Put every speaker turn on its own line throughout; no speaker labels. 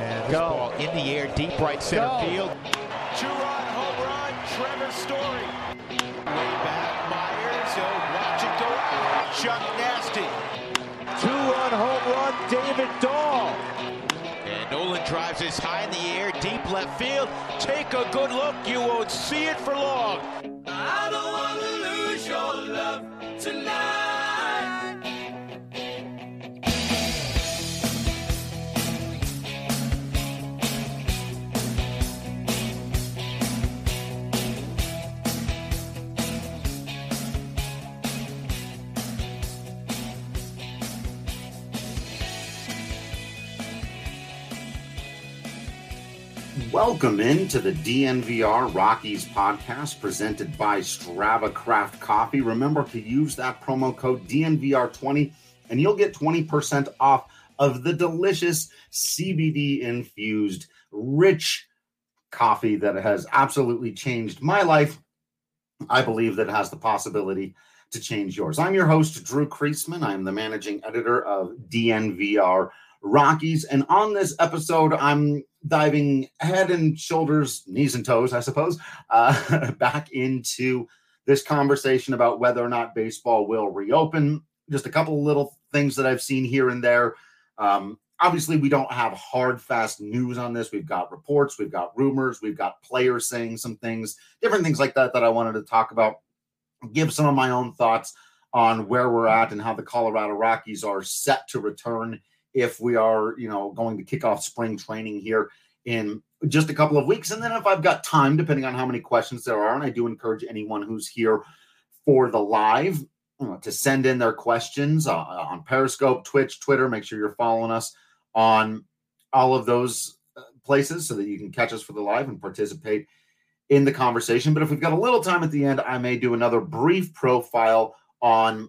And this ball in the air, deep right center field.
Two-run home run, Trevor Story. Way back, Myers. Watch it go out. Chuck Nasty.
Two-run home run, David Dahl.
And Nolan drives this high in the air, deep left field. Take a good look. You won't see it for long.
I don't want to lose your love tonight.
Welcome into the DNVR Rockies podcast presented by Strava Craft Coffee. Remember to use that promo code DNVR20 and you'll get 20% off of the delicious CBD-infused, rich coffee that has absolutely changed my life. I believe that it has the possibility to change yours. I'm your host, Drew Kreisman. I'm the managing editor of DNVR Rockies. And on this episode, I'm diving head and shoulders, knees and toes, I suppose, back into this conversation about whether or not baseball will reopen. Just a couple of little things that I've seen here and there. Obviously, we don't have hard, fast news on this. We've got reports, we've got rumors, we've got players saying some things, different things like that I wanted to talk about, give some of my own thoughts on where we're at and how the Colorado Rockies are set to return if we are, going to kick off spring training here in just a couple of weeks. And then if I've got time, depending on how many questions there are, and I do encourage anyone who's here for the live to send in their questions on Periscope, Twitch, Twitter. Make sure you're following us on all of those places so that you can catch us for the live and participate in the conversation. But if we've got a little time at the end, I may do another brief profile on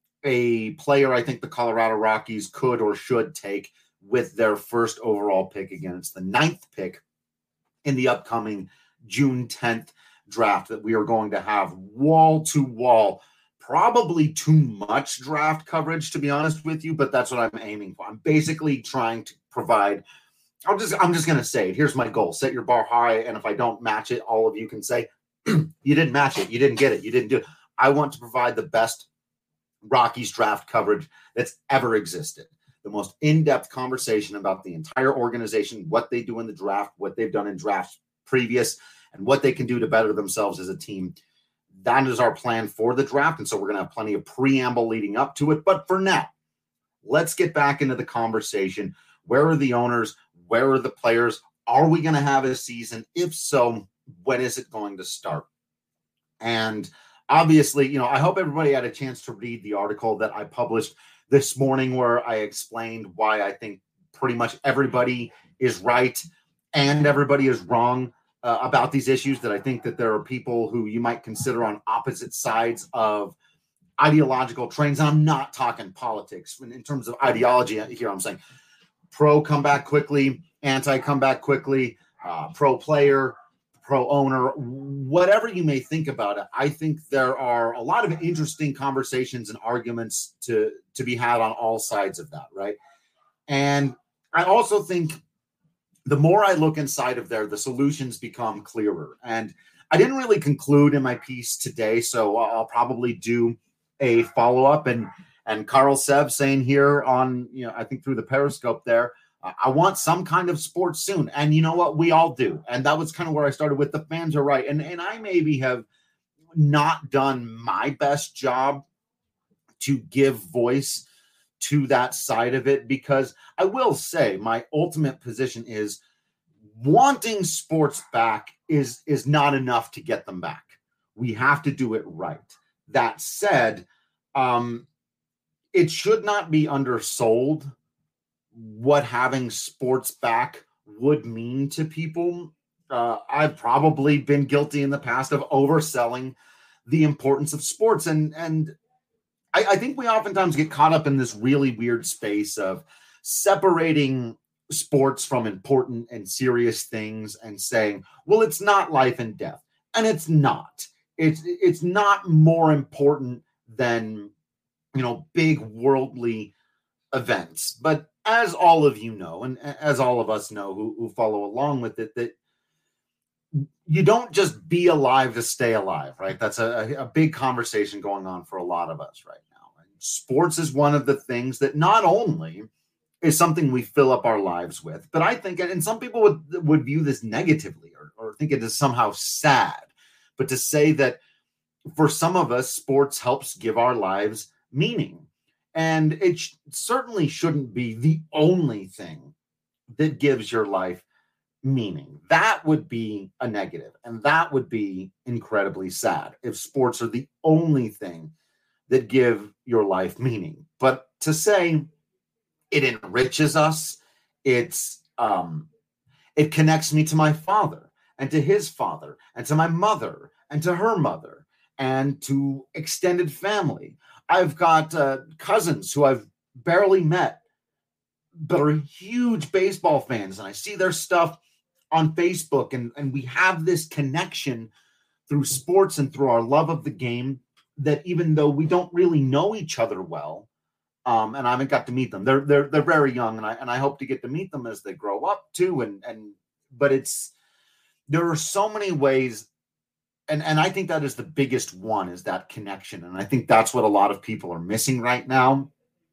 a player I think the Colorado Rockies could or should take with their first overall pick against the 9th pick in the upcoming June 10th draft that we are going to have wall to wall. Probably too much draft coverage, to be honest with you, but that's what I'm aiming for. I'm basically trying to provide, I'm just going to say it. Here's my goal. Set your bar high, and if I don't match it, all of you can say, you didn't match it, you didn't get it, you didn't do it. I want to provide the best Rockies draft coverage that's ever existed. The most in-depth conversation about the entire organization, what they do in the draft, what they've done in drafts previous, and what they can do to better themselves as a team. That is our plan for the draft, and so we're going to have plenty of preamble leading up to it. But for now, let's get back into the conversation. Where are the owners? Where are the players? Are we going to have a season? If so, when is it going to start? And obviously, I hope everybody had a chance to read the article that I published this morning where I explained why I think pretty much everybody is right and everybody is wrong about these issues, that I think that there are people who you might consider on opposite sides of ideological trains. And I'm not talking politics in terms of ideology here. I'm saying pro come back quickly, anti come back quickly, pro player, pro owner, whatever you may think about it. I think there are a lot of interesting conversations and arguments to be had on all sides of that, right? And I also think the more I look inside of there, the solutions become clearer. And I didn't really conclude in my piece today, so I'll probably do a follow-up. And Carl Sev saying here on, I think through the Periscope there, I want some kind of sports soon. And you know what? We all do. And that was kind of where I started with the fans are right. And I maybe have not done my best job to give voice to that side of it, because I will say my ultimate position is wanting sports back is not enough to get them back. We have to do it right. That said, it should not be undersold what having sports back would mean to people. I've probably been guilty in the past of overselling the importance of sports. And I think we oftentimes get caught up in this really weird space of separating sports from important and serious things and saying, well, it's not life and death. And it's not. It's not more important than, big worldly events. But as all of you know, and as all of us know who follow along with it, that you don't just be alive to stay alive, right? That's a big conversation going on for a lot of us right now. And sports is one of the things that not only is something we fill up our lives with, but I think, and some people would view this negatively or think it is somehow sad, but to say that for some of us, sports helps give our lives meaning. And it certainly shouldn't be the only thing that gives your life meaning. That would be a negative, and that would be incredibly sad if sports are the only thing that give your life meaning. But to say it enriches us, it connects me to my father and to his father and to my mother and to her mother and to extended family. I've got cousins who I've barely met, but are huge baseball fans, and I see their stuff on Facebook, and we have this connection through sports and through our love of the game that even though we don't really know each other well, and I haven't got to meet them, they're very young, and I hope to get to meet them as they grow up too. But there are so many ways. And I think that is the biggest one, is that connection. And I think that's what a lot of people are missing right now.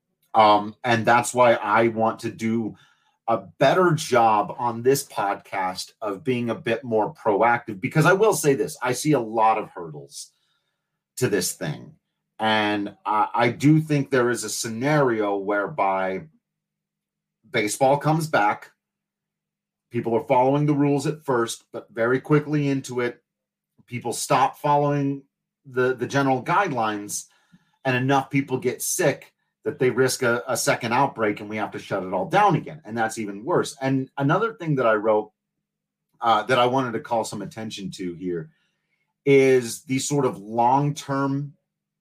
And that's why I want to do a better job on this podcast of being a bit more proactive, because I will say this, I see a lot of hurdles to this thing. And I do think there is a scenario whereby baseball comes back. People are following the rules at first, but very quickly into it, people stop following the general guidelines, and enough people get sick that they risk a second outbreak, and we have to shut it all down again. And that's even worse. And another thing that I wrote that I wanted to call some attention to here is the sort of long-term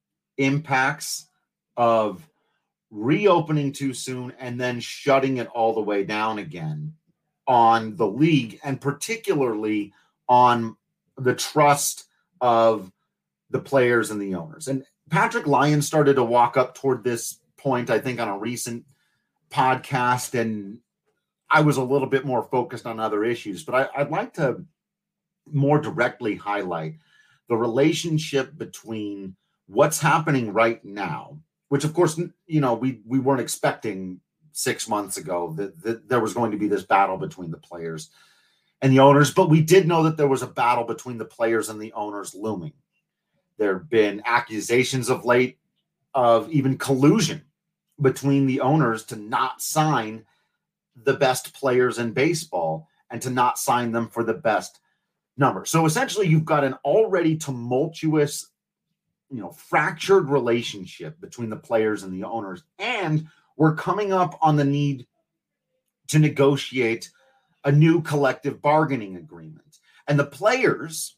impacts of reopening too soon and then shutting it all the way down again on the league, and particularly on the trust of the players and the owners. And Patrick Lyon started to walk up toward this point, I think, on a recent podcast, and I was a little bit more focused on other issues, but I'd like to more directly highlight the relationship between what's happening right now, which of course, you know, we weren't expecting 6 months ago that there was going to be this battle between the players and the owners, but we did know that there was a battle between the players and the owners looming. There have been accusations of late of even collusion between the owners to not sign the best players in baseball and to not sign them for the best number. So essentially you've got an already tumultuous, fractured relationship between the players and the owners. And we're coming up on the need to negotiate a new collective bargaining agreement. And the players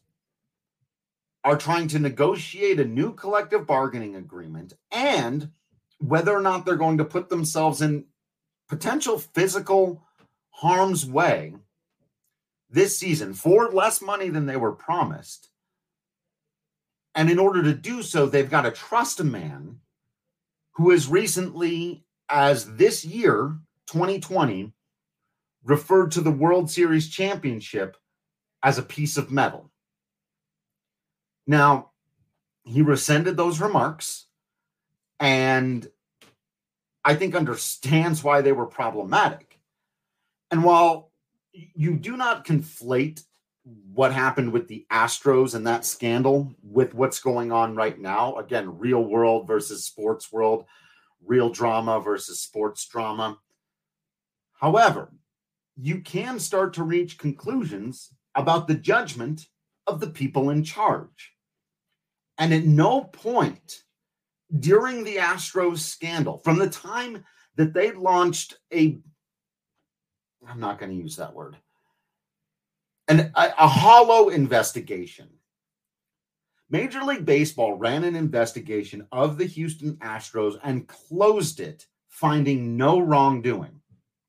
are trying to negotiate a new collective bargaining agreement, and whether or not they're going to put themselves in potential physical harm's way this season for less money than they were promised. And in order to do so, they've got to trust a man who has recently, as this year, 2020, referred to the World Series championship as a piece of metal. Now, he rescinded those remarks, and I think understands why they were problematic. And while you do not conflate what happened with the Astros and that scandal with what's going on right now, again, real world versus sports world, real drama versus sports drama. However, you can start to reach conclusions about the judgment of the people in charge. And at no point during the Astros scandal, from the time that they launched I'm not going to use that word, a hollow investigation, Major League Baseball ran an investigation of the Houston Astros and closed it, finding no wrongdoing.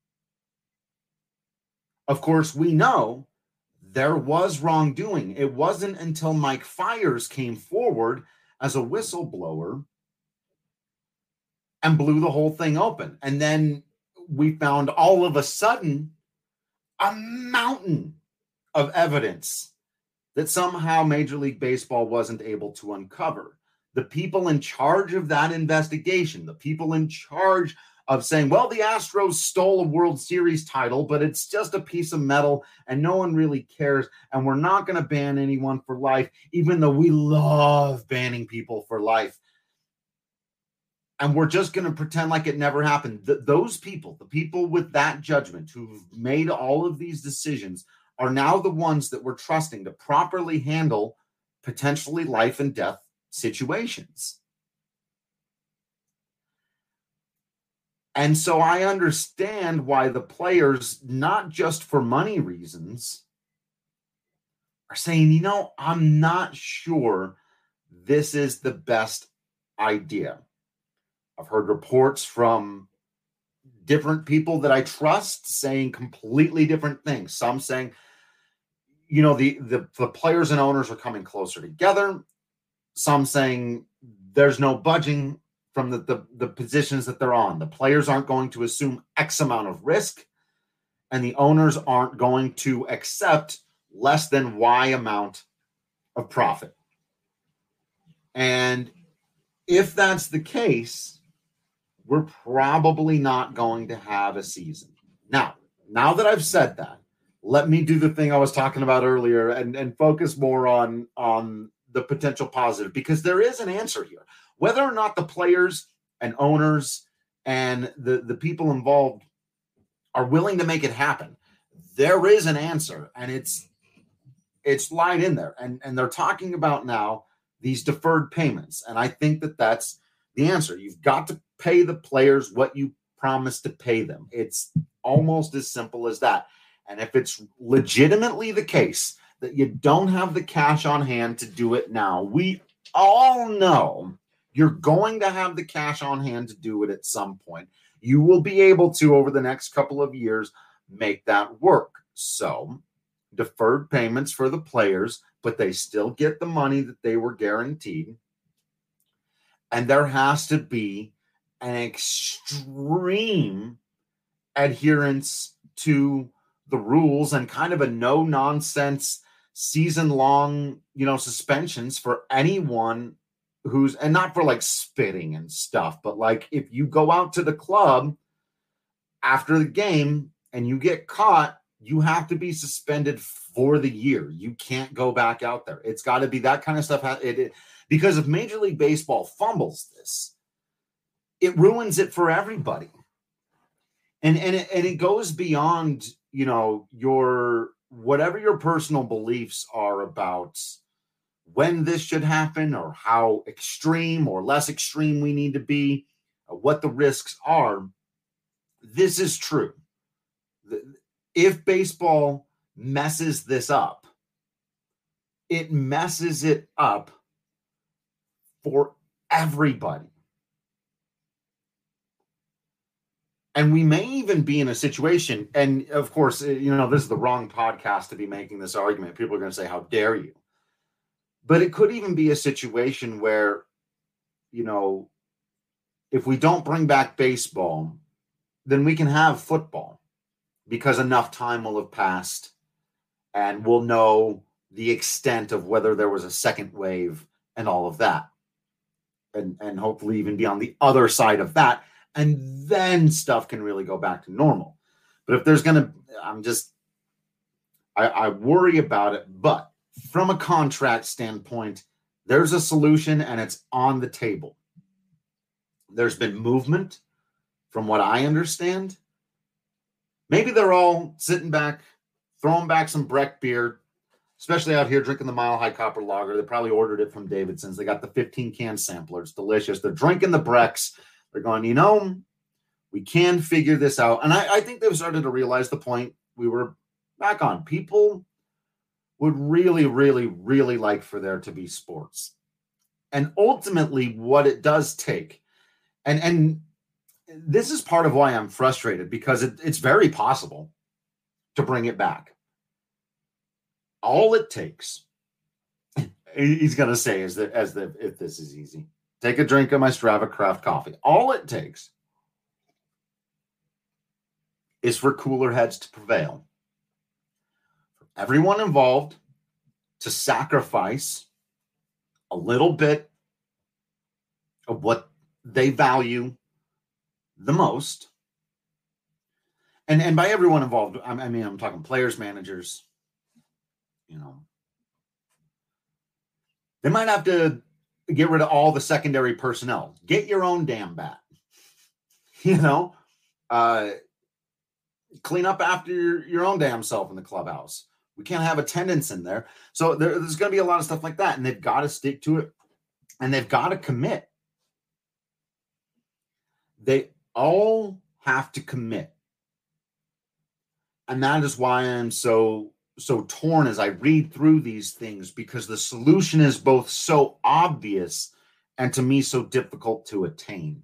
Of course, we know there was wrongdoing. It wasn't until Mike Fiers came forward as a whistleblower and blew the whole thing open. And then we found all of a sudden a mountain of evidence that somehow Major League Baseball wasn't able to uncover. The people in charge of that investigation, the people in charge of saying, well, the Astros stole a World Series title, but it's just a piece of metal and no one really cares. And we're not going to ban anyone for life, even though we love banning people for life. And we're just going to pretend like it never happened. Those people, the people with that judgment who've made all of these decisions, are now the ones that we're trusting to properly handle potentially life and death situations. And so I understand why the players, not just for money reasons, are saying, I'm not sure this is the best idea. I've heard reports from different people that I trust saying completely different things. Some saying, the players and owners are coming closer together. Some saying there's no budging from the positions that they're on. The players aren't going to assume X amount of risk, and the owners aren't going to accept less than Y amount of profit. And if that's the case, we're probably not going to have a season. Now that I've said that, let me do the thing I was talking about earlier and focus more on the potential positive, because there is an answer here. Whether or not the players and owners and the people involved are willing to make it happen, there is an answer, and it's lied in there. And they're talking about now these deferred payments. And I think that that's the answer. You've got to pay the players what you promised to pay them. It's almost as simple as that. And if it's legitimately the case that you don't have the cash on hand to do it now, we all know you're going to have the cash on hand to do it at some point. You will be able to, over the next couple of years, make that work. So, deferred payments for the players, but they still get the money that they were guaranteed. And there has to be an extreme adherence to the rules and kind of a no-nonsense season-long, suspensions for anyone who's, and not for like spitting and stuff, but like if you go out to the club after the game and you get caught, you have to be suspended for the year. You can't go back out there. It's got to be that kind of stuff. Because if Major League Baseball fumbles this, it ruins it for everybody. And it goes beyond, your whatever your personal beliefs are about when this should happen or how extreme or less extreme we need to be, what the risks are. This is true. If baseball messes this up, it messes it up for everybody. And we may even be in a situation, and of course, this is the wrong podcast to be making this argument. People are going to say, how dare you? But it could even be a situation where, if we don't bring back baseball, then we can have football because enough time will have passed and we'll know the extent of whether there was a second wave and all of that. And hopefully even be on the other side of that. And then stuff can really go back to normal. But if there's I worry about it. But from a contract standpoint, there's a solution and it's on the table. There's been movement from what I understand. Maybe they're all sitting back, throwing back some Breck beer, especially out here drinking the Mile High Copper Lager. They probably ordered it from Davidson's. They got the 15-can sampler. It's delicious. They're drinking the Brecks. They're going, we can figure this out. And I think they've started to realize the point we were back on. People would really, really, really like for there to be sports. And ultimately what it does take, and this is part of why I'm frustrated, because it's very possible to bring it back. All it takes, he's going to say if this is easy, take a drink of my Strava Craft coffee. All it takes is for cooler heads to prevail. For everyone involved to sacrifice a little bit of what they value the most. And by everyone involved, I mean, I'm talking players, managers, They might have to get rid of all the secondary personnel. Get your own damn bat. Clean up after your own damn self in the clubhouse. We can't have attendance in there. So there's going to be a lot of stuff like that, and they've got to stick to it, and they've got to commit. They all have to commit. And that is why I'm so torn as I read through these things, because the solution is both so obvious and to me so difficult to attain.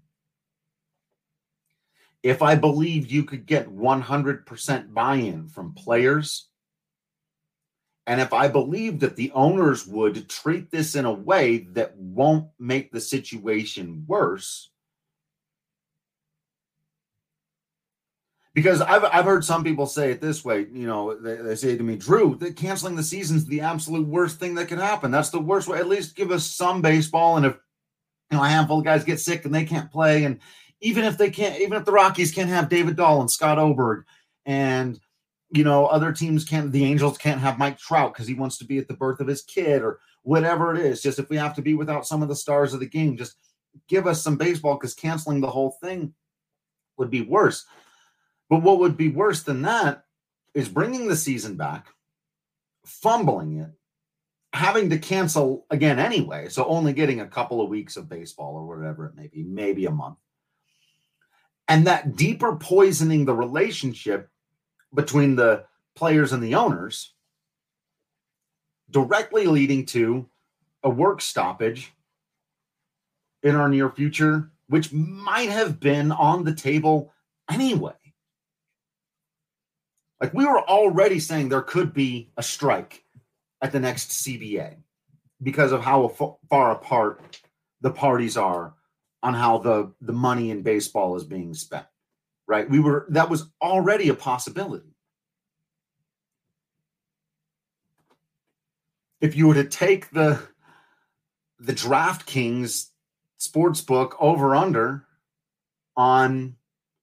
If I believed you could get 100% buy-in from players, and if I believed that the owners would treat this in a way that won't make the situation worse, because I've heard some people say it this way, they say to me, Drew, that canceling the season is the absolute worst thing that could happen. That's the worst way. At least give us some baseball. And if a handful of guys get sick and they can't play, and even if the Rockies can't have David Dahl and Scott Oberg, and other teams can't, the Angels can't have Mike Trout because he wants to be at the birth of his kid or whatever it is. Just if we have to be without some of the stars of the game, just give us some baseball, because canceling the whole thing would be worse. But what would be worse than that is bringing the season back, fumbling it, having to cancel again anyway, so only getting a couple of weeks of baseball or whatever it may be, maybe a month. And that deeper poisoning the relationship between the players and the owners, directly leading to a work stoppage in our near future, which might have been on the table anyway. Like, we were already saying there could be a strike at the next CBA because of how far apart the parties are on how the money in baseball is being spent, right? That was already a possibility. If you were to take the DraftKings sportsbook over-under on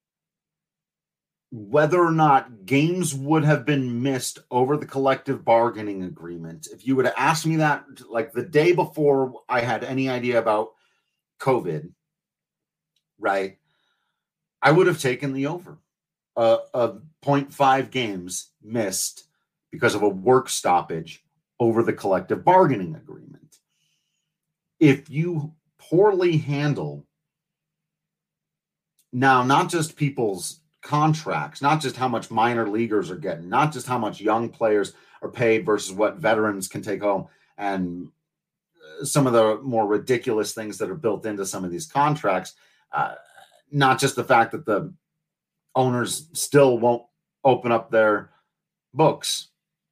whether or not games would have been missed over the collective bargaining agreement, if you would have asked me that like the day before I had any idea about COVID, right, I would have taken the over of 0.5 games missed because of a work stoppage over the collective bargaining agreement. If you poorly handle now, not just people's contracts, not just how much minor leaguers are getting, not just how much young players are paid versus what veterans can take home, and some of the more ridiculous things that are built into some of these contracts, not just the fact that the owners still won't open up their books.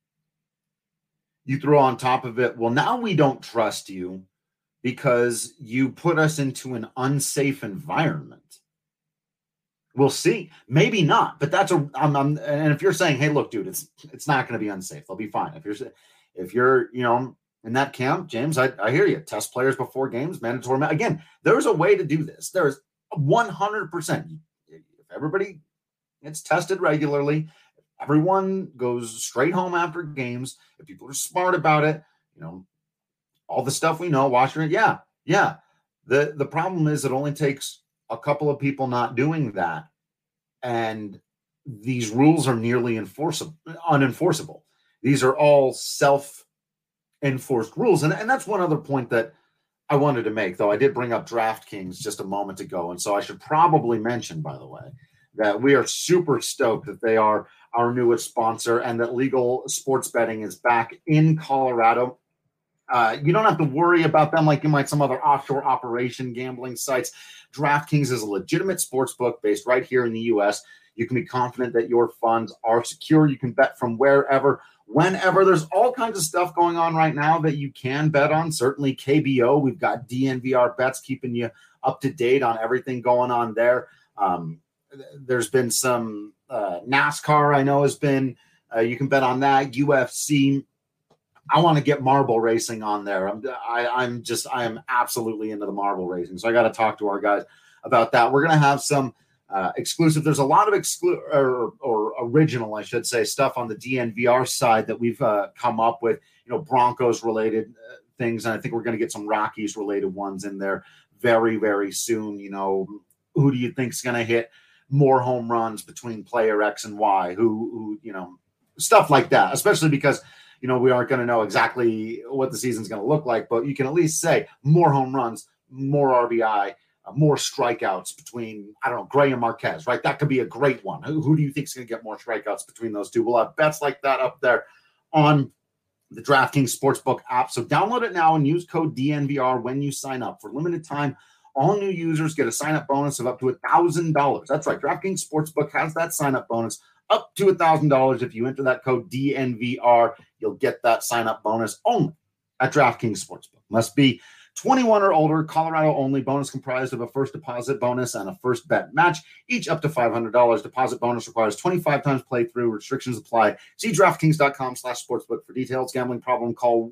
You throw on top of it, well, now we don't trust you because you put us into an unsafe environment. We'll see. Maybe not, but that's and if you're saying, hey, look, dude, it's not going to be unsafe. They'll be fine. If you're in that camp, James, I hear you. Test players before games, mandatory. Again, there's a way to do this. There's 100%. If everybody gets tested regularly, everyone goes straight home after games. If people are smart about it, all the stuff we know, washing it. Yeah. The problem is it only takes a couple of people not doing that, and these rules are nearly unenforceable. These are all self-enforced rules. And that's one other point that I wanted to make, though I did bring up DraftKings just a moment ago. And so I should probably mention, by the way, that we are super stoked that they are our newest sponsor and that legal sports betting is back in Colorado. You don't have to worry about them like you might some other offshore operation gambling sites. DraftKings is a legitimate sports book based right here in the U.S. You can be confident that your funds are secure. You can bet from wherever, whenever. There's all kinds of stuff going on right now that you can bet on. Certainly KBO. We've got DNVR bets keeping you up to date on everything going on there. There's been some NASCAR, I know, has been, you can bet on that. UFC. I want to get marble racing on there. I am absolutely into the marble racing. So I got to talk to our guys about that. We're going to have some exclusive. There's a lot of or original, I should say, stuff on the DNVR side that we've come up with, Broncos related things. And I think we're going to get some Rockies related ones in there very, very soon. Who do you think is going to hit more home runs between player X and Y? Who stuff like that, especially because, we aren't going to know exactly what the season's going to look like, but you can at least say more home runs, more RBI, more strikeouts between, I don't know, Gray and Marquez, right? That could be a great one. Who do you think is going to get more strikeouts between those two? We'll have bets like that up there on the DraftKings Sportsbook app. So download it now and use code DNVR when you sign up. For limited time, all new users get a sign-up bonus of up to $1,000. That's right. DraftKings Sportsbook has that sign-up bonus up to $1,000. If you enter that code DNVR, you'll get that sign-up bonus only at DraftKings Sportsbook. Must be 21 or older, Colorado only. Bonus comprised of a first deposit bonus and a first bet match, each up to $500. Deposit bonus requires 25 times playthrough. Restrictions apply. See DraftKings.com/sportsbook for details. Gambling problem, call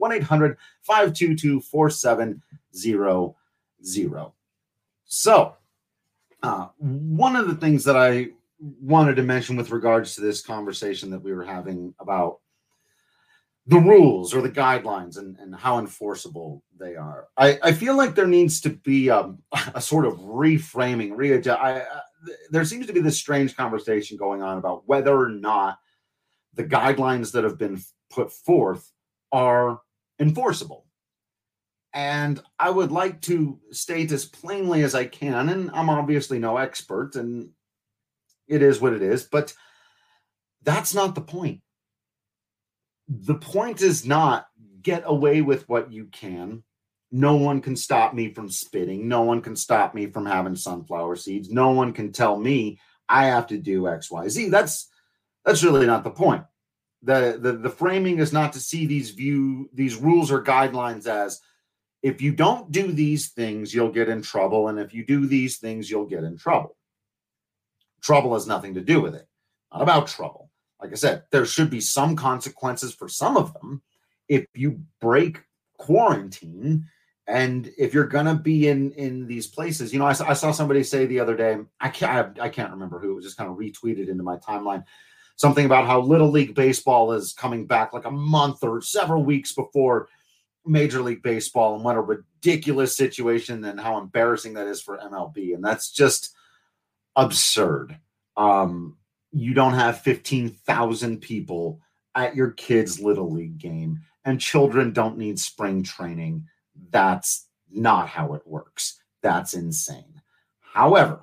1-800-522-4700. So, one of the things that I wanted to mention with regards to this conversation that we were having about the rules or the guidelines and how enforceable they are. I feel like there needs to be a sort of reframing, there seems to be this strange conversation going on about whether or not the guidelines that have been put forth are enforceable. And I would like to state as plainly as I can, and I'm obviously no expert, and it is what it is, but that's not the point. The point is not get away with what you can. No one can stop me from spitting. No one can stop me from having sunflower seeds. No one can tell me I have to do X, Y, Z. That's really not the point. The framing is not to see these rules or guidelines as, if you don't do these things, you'll get in trouble. And if you do these things, you'll get in trouble. Trouble has nothing to do with it. Not about trouble. Like I said, there should be some consequences for some of them if you break quarantine and if you're going to be in these places. I saw somebody say the other day, I can't remember who, it was just kind of retweeted into my timeline, something about how Little League Baseball is coming back like a month or several weeks before Major League Baseball, and what a ridiculous situation and how embarrassing that is for MLB. And that's just absurd. You don't have 15,000 people at your kid's Little League game, and children don't need spring training. That's not how it works. That's insane. However,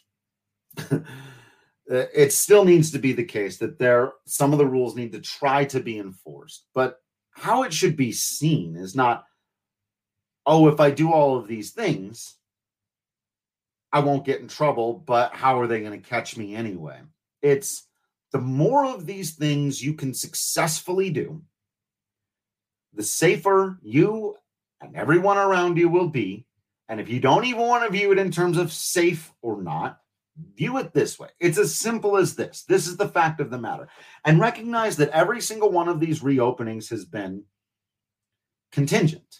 it still needs to be the case that some of the rules need to try to be enforced. But how it should be seen is not, if I do all of these things, I won't get in trouble, but how are they going to catch me anyway? It's the more of these things you can successfully do, the safer you and everyone around you will be. And if you don't even want to view it in terms of safe or not, view it this way. It's as simple as this. This is the fact of the matter. And recognize that every single one of these reopenings has been contingent.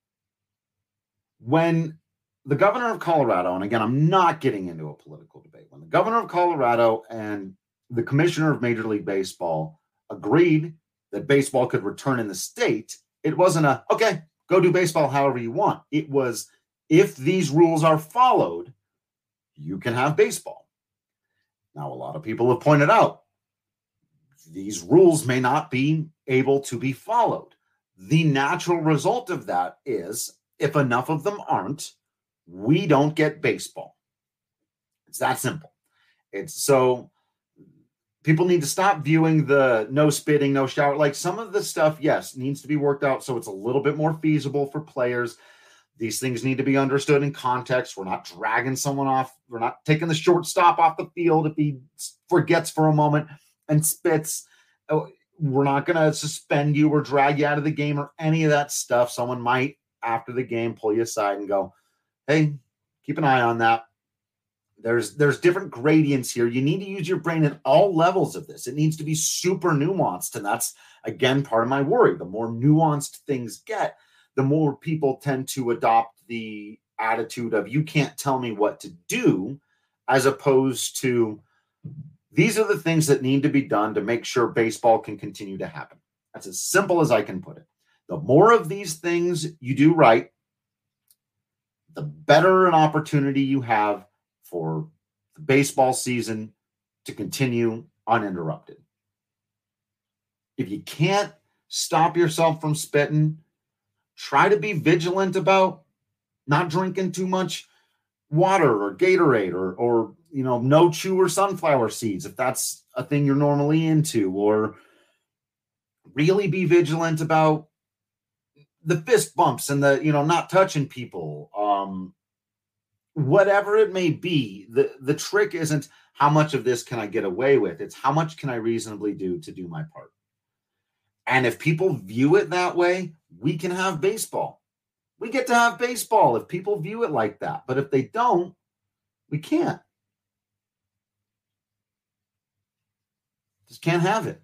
When the governor of Colorado, and again, I'm not getting into a political debate, when the governor of Colorado and the commissioner of Major League Baseball agreed that baseball could return in the state, it wasn't okay, go do baseball however you want. It was, if these rules are followed, you can have baseball. Now, a lot of people have pointed out these rules may not be able to be followed. The natural result of that is, if enough of them aren't, we don't get baseball. It's that simple. So people need to stop viewing the no spitting, no shower. Like, some of the stuff, yes, needs to be worked out so it's a little bit more feasible for players. These things need to be understood in context. We're not dragging someone off. We're not taking the shortstop off the field if he forgets for a moment and spits. We're not going to suspend you or drag you out of the game or any of that stuff. Someone might, after the game, pull you aside and go, hey, keep an eye on that. There's different gradients here. You need to use your brain at all levels of this. It needs to be super nuanced. And that's, again, part of my worry. The more nuanced things get, the more people tend to adopt the attitude of, you can't tell me what to do, as opposed to, these are the things that need to be done to make sure baseball can continue to happen. That's as simple as I can put it. The more of these things you do right, the better an opportunity you have for the baseball season to continue uninterrupted. If you can't stop yourself from spitting, try to be vigilant about not drinking too much water or Gatorade or no chew or sunflower seeds, if that's a thing you're normally into, or really be vigilant about the fist bumps and the, not touching people. Whatever it may be, the trick isn't how much of this can I get away with. It's how much can I reasonably do to do my part. And if people view it that way, we can have baseball. We get to have baseball if people view it like that. But if they don't, we can't. Just can't have it.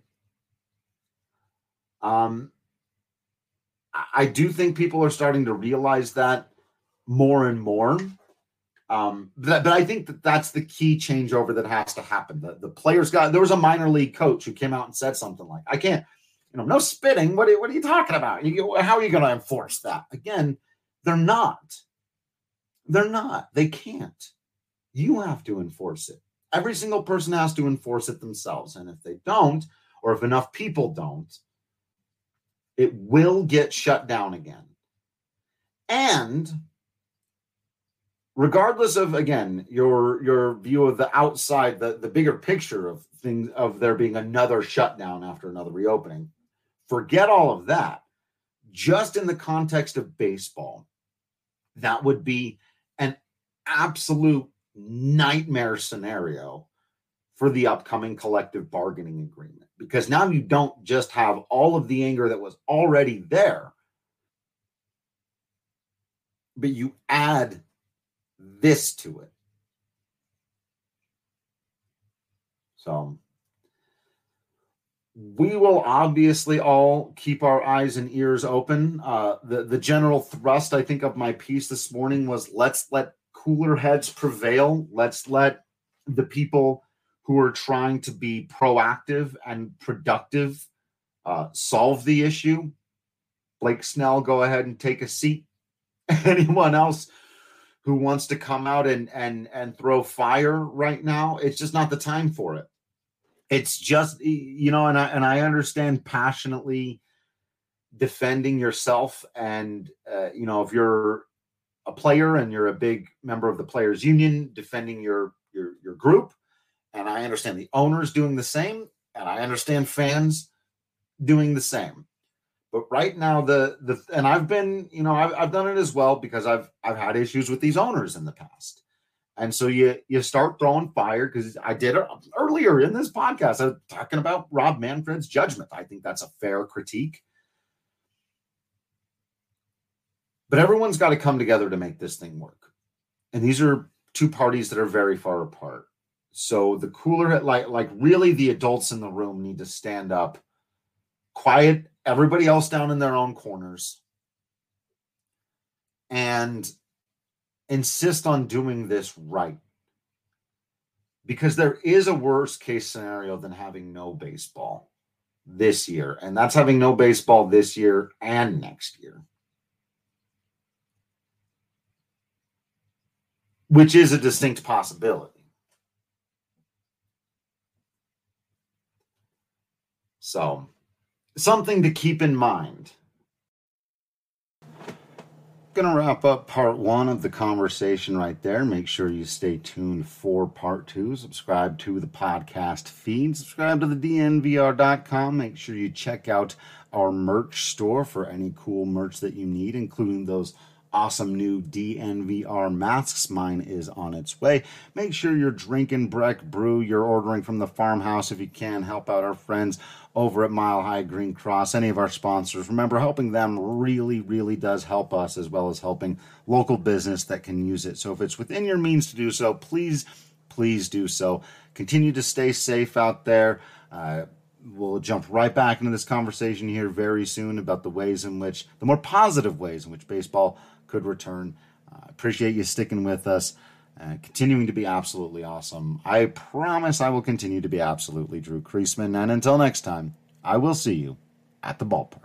I do think people are starting to realize that more and more. But I think that's the key changeover that has to happen. The players there was a minor league coach who came out and said something like, I can't, no spitting. What are you talking about? How are you going to enforce that? Again, they're not. They can't. You have to enforce it. Every single person has to enforce it themselves. And if they don't, or if enough people don't, it will get shut down again. And regardless of, again, your view of the outside, the bigger picture of things, of there being another shutdown after another reopening, forget all of that. Just in the context of baseball, that would be an absolute nightmare scenario for the upcoming collective bargaining agreement, because now you don't just have all of the anger that was already there, but you add this to it. So we will obviously all keep our eyes and ears open. The general thrust, I think, of my piece this morning was, let's let cooler heads prevail. Let's let the people who are trying to be proactive and productive solve the issue. Blake Snell, go ahead and take a seat. Anyone else who wants to come out and throw fire right now, it's just not the time for it. It's just, and I understand passionately defending yourself. And, if you're a player and you're a big member of the players union, defending your group. And I understand the owners doing the same. And I understand fans doing the same. But right now, and I've been, I've done it as well, because I've had issues with these owners in the past. And so you start throwing fire, because I did it earlier in this podcast. I was talking about Rob Manfred's judgment. I think that's a fair critique. But everyone's got to come together to make this thing work. And these are two parties that are very far apart. So the cooler, like really the adults in the room need to stand up, quiet everybody else down in their own corners, and insist on doing this right. Because there is a worse case scenario than having no baseball this year. And that's having no baseball this year and next year. Which is a distinct possibility. So, something to keep in mind. Going to wrap up part one of the conversation right there. Make sure you stay tuned for part two. Subscribe to the podcast feed. Subscribe to the DNVR.com. Make sure you check out our merch store for any cool merch that you need, including those awesome new DNVR masks. Mine is on its way. Make sure you're drinking Breck Brew. You're ordering from the farmhouse if you can. Help out our friends over at Mile High Green Cross, any of our sponsors. Remember, helping them really, really does help us, as well as helping local business that can use it. So if it's within your means to do so, please do so. Continue to stay safe out there. We'll jump right back into this conversation here very soon about the more positive ways in which baseball could return. Appreciate you sticking with us, continuing to be absolutely awesome. I promise I will continue to be absolutely Drew Creasman. And until next time, I will see you at the ballpark.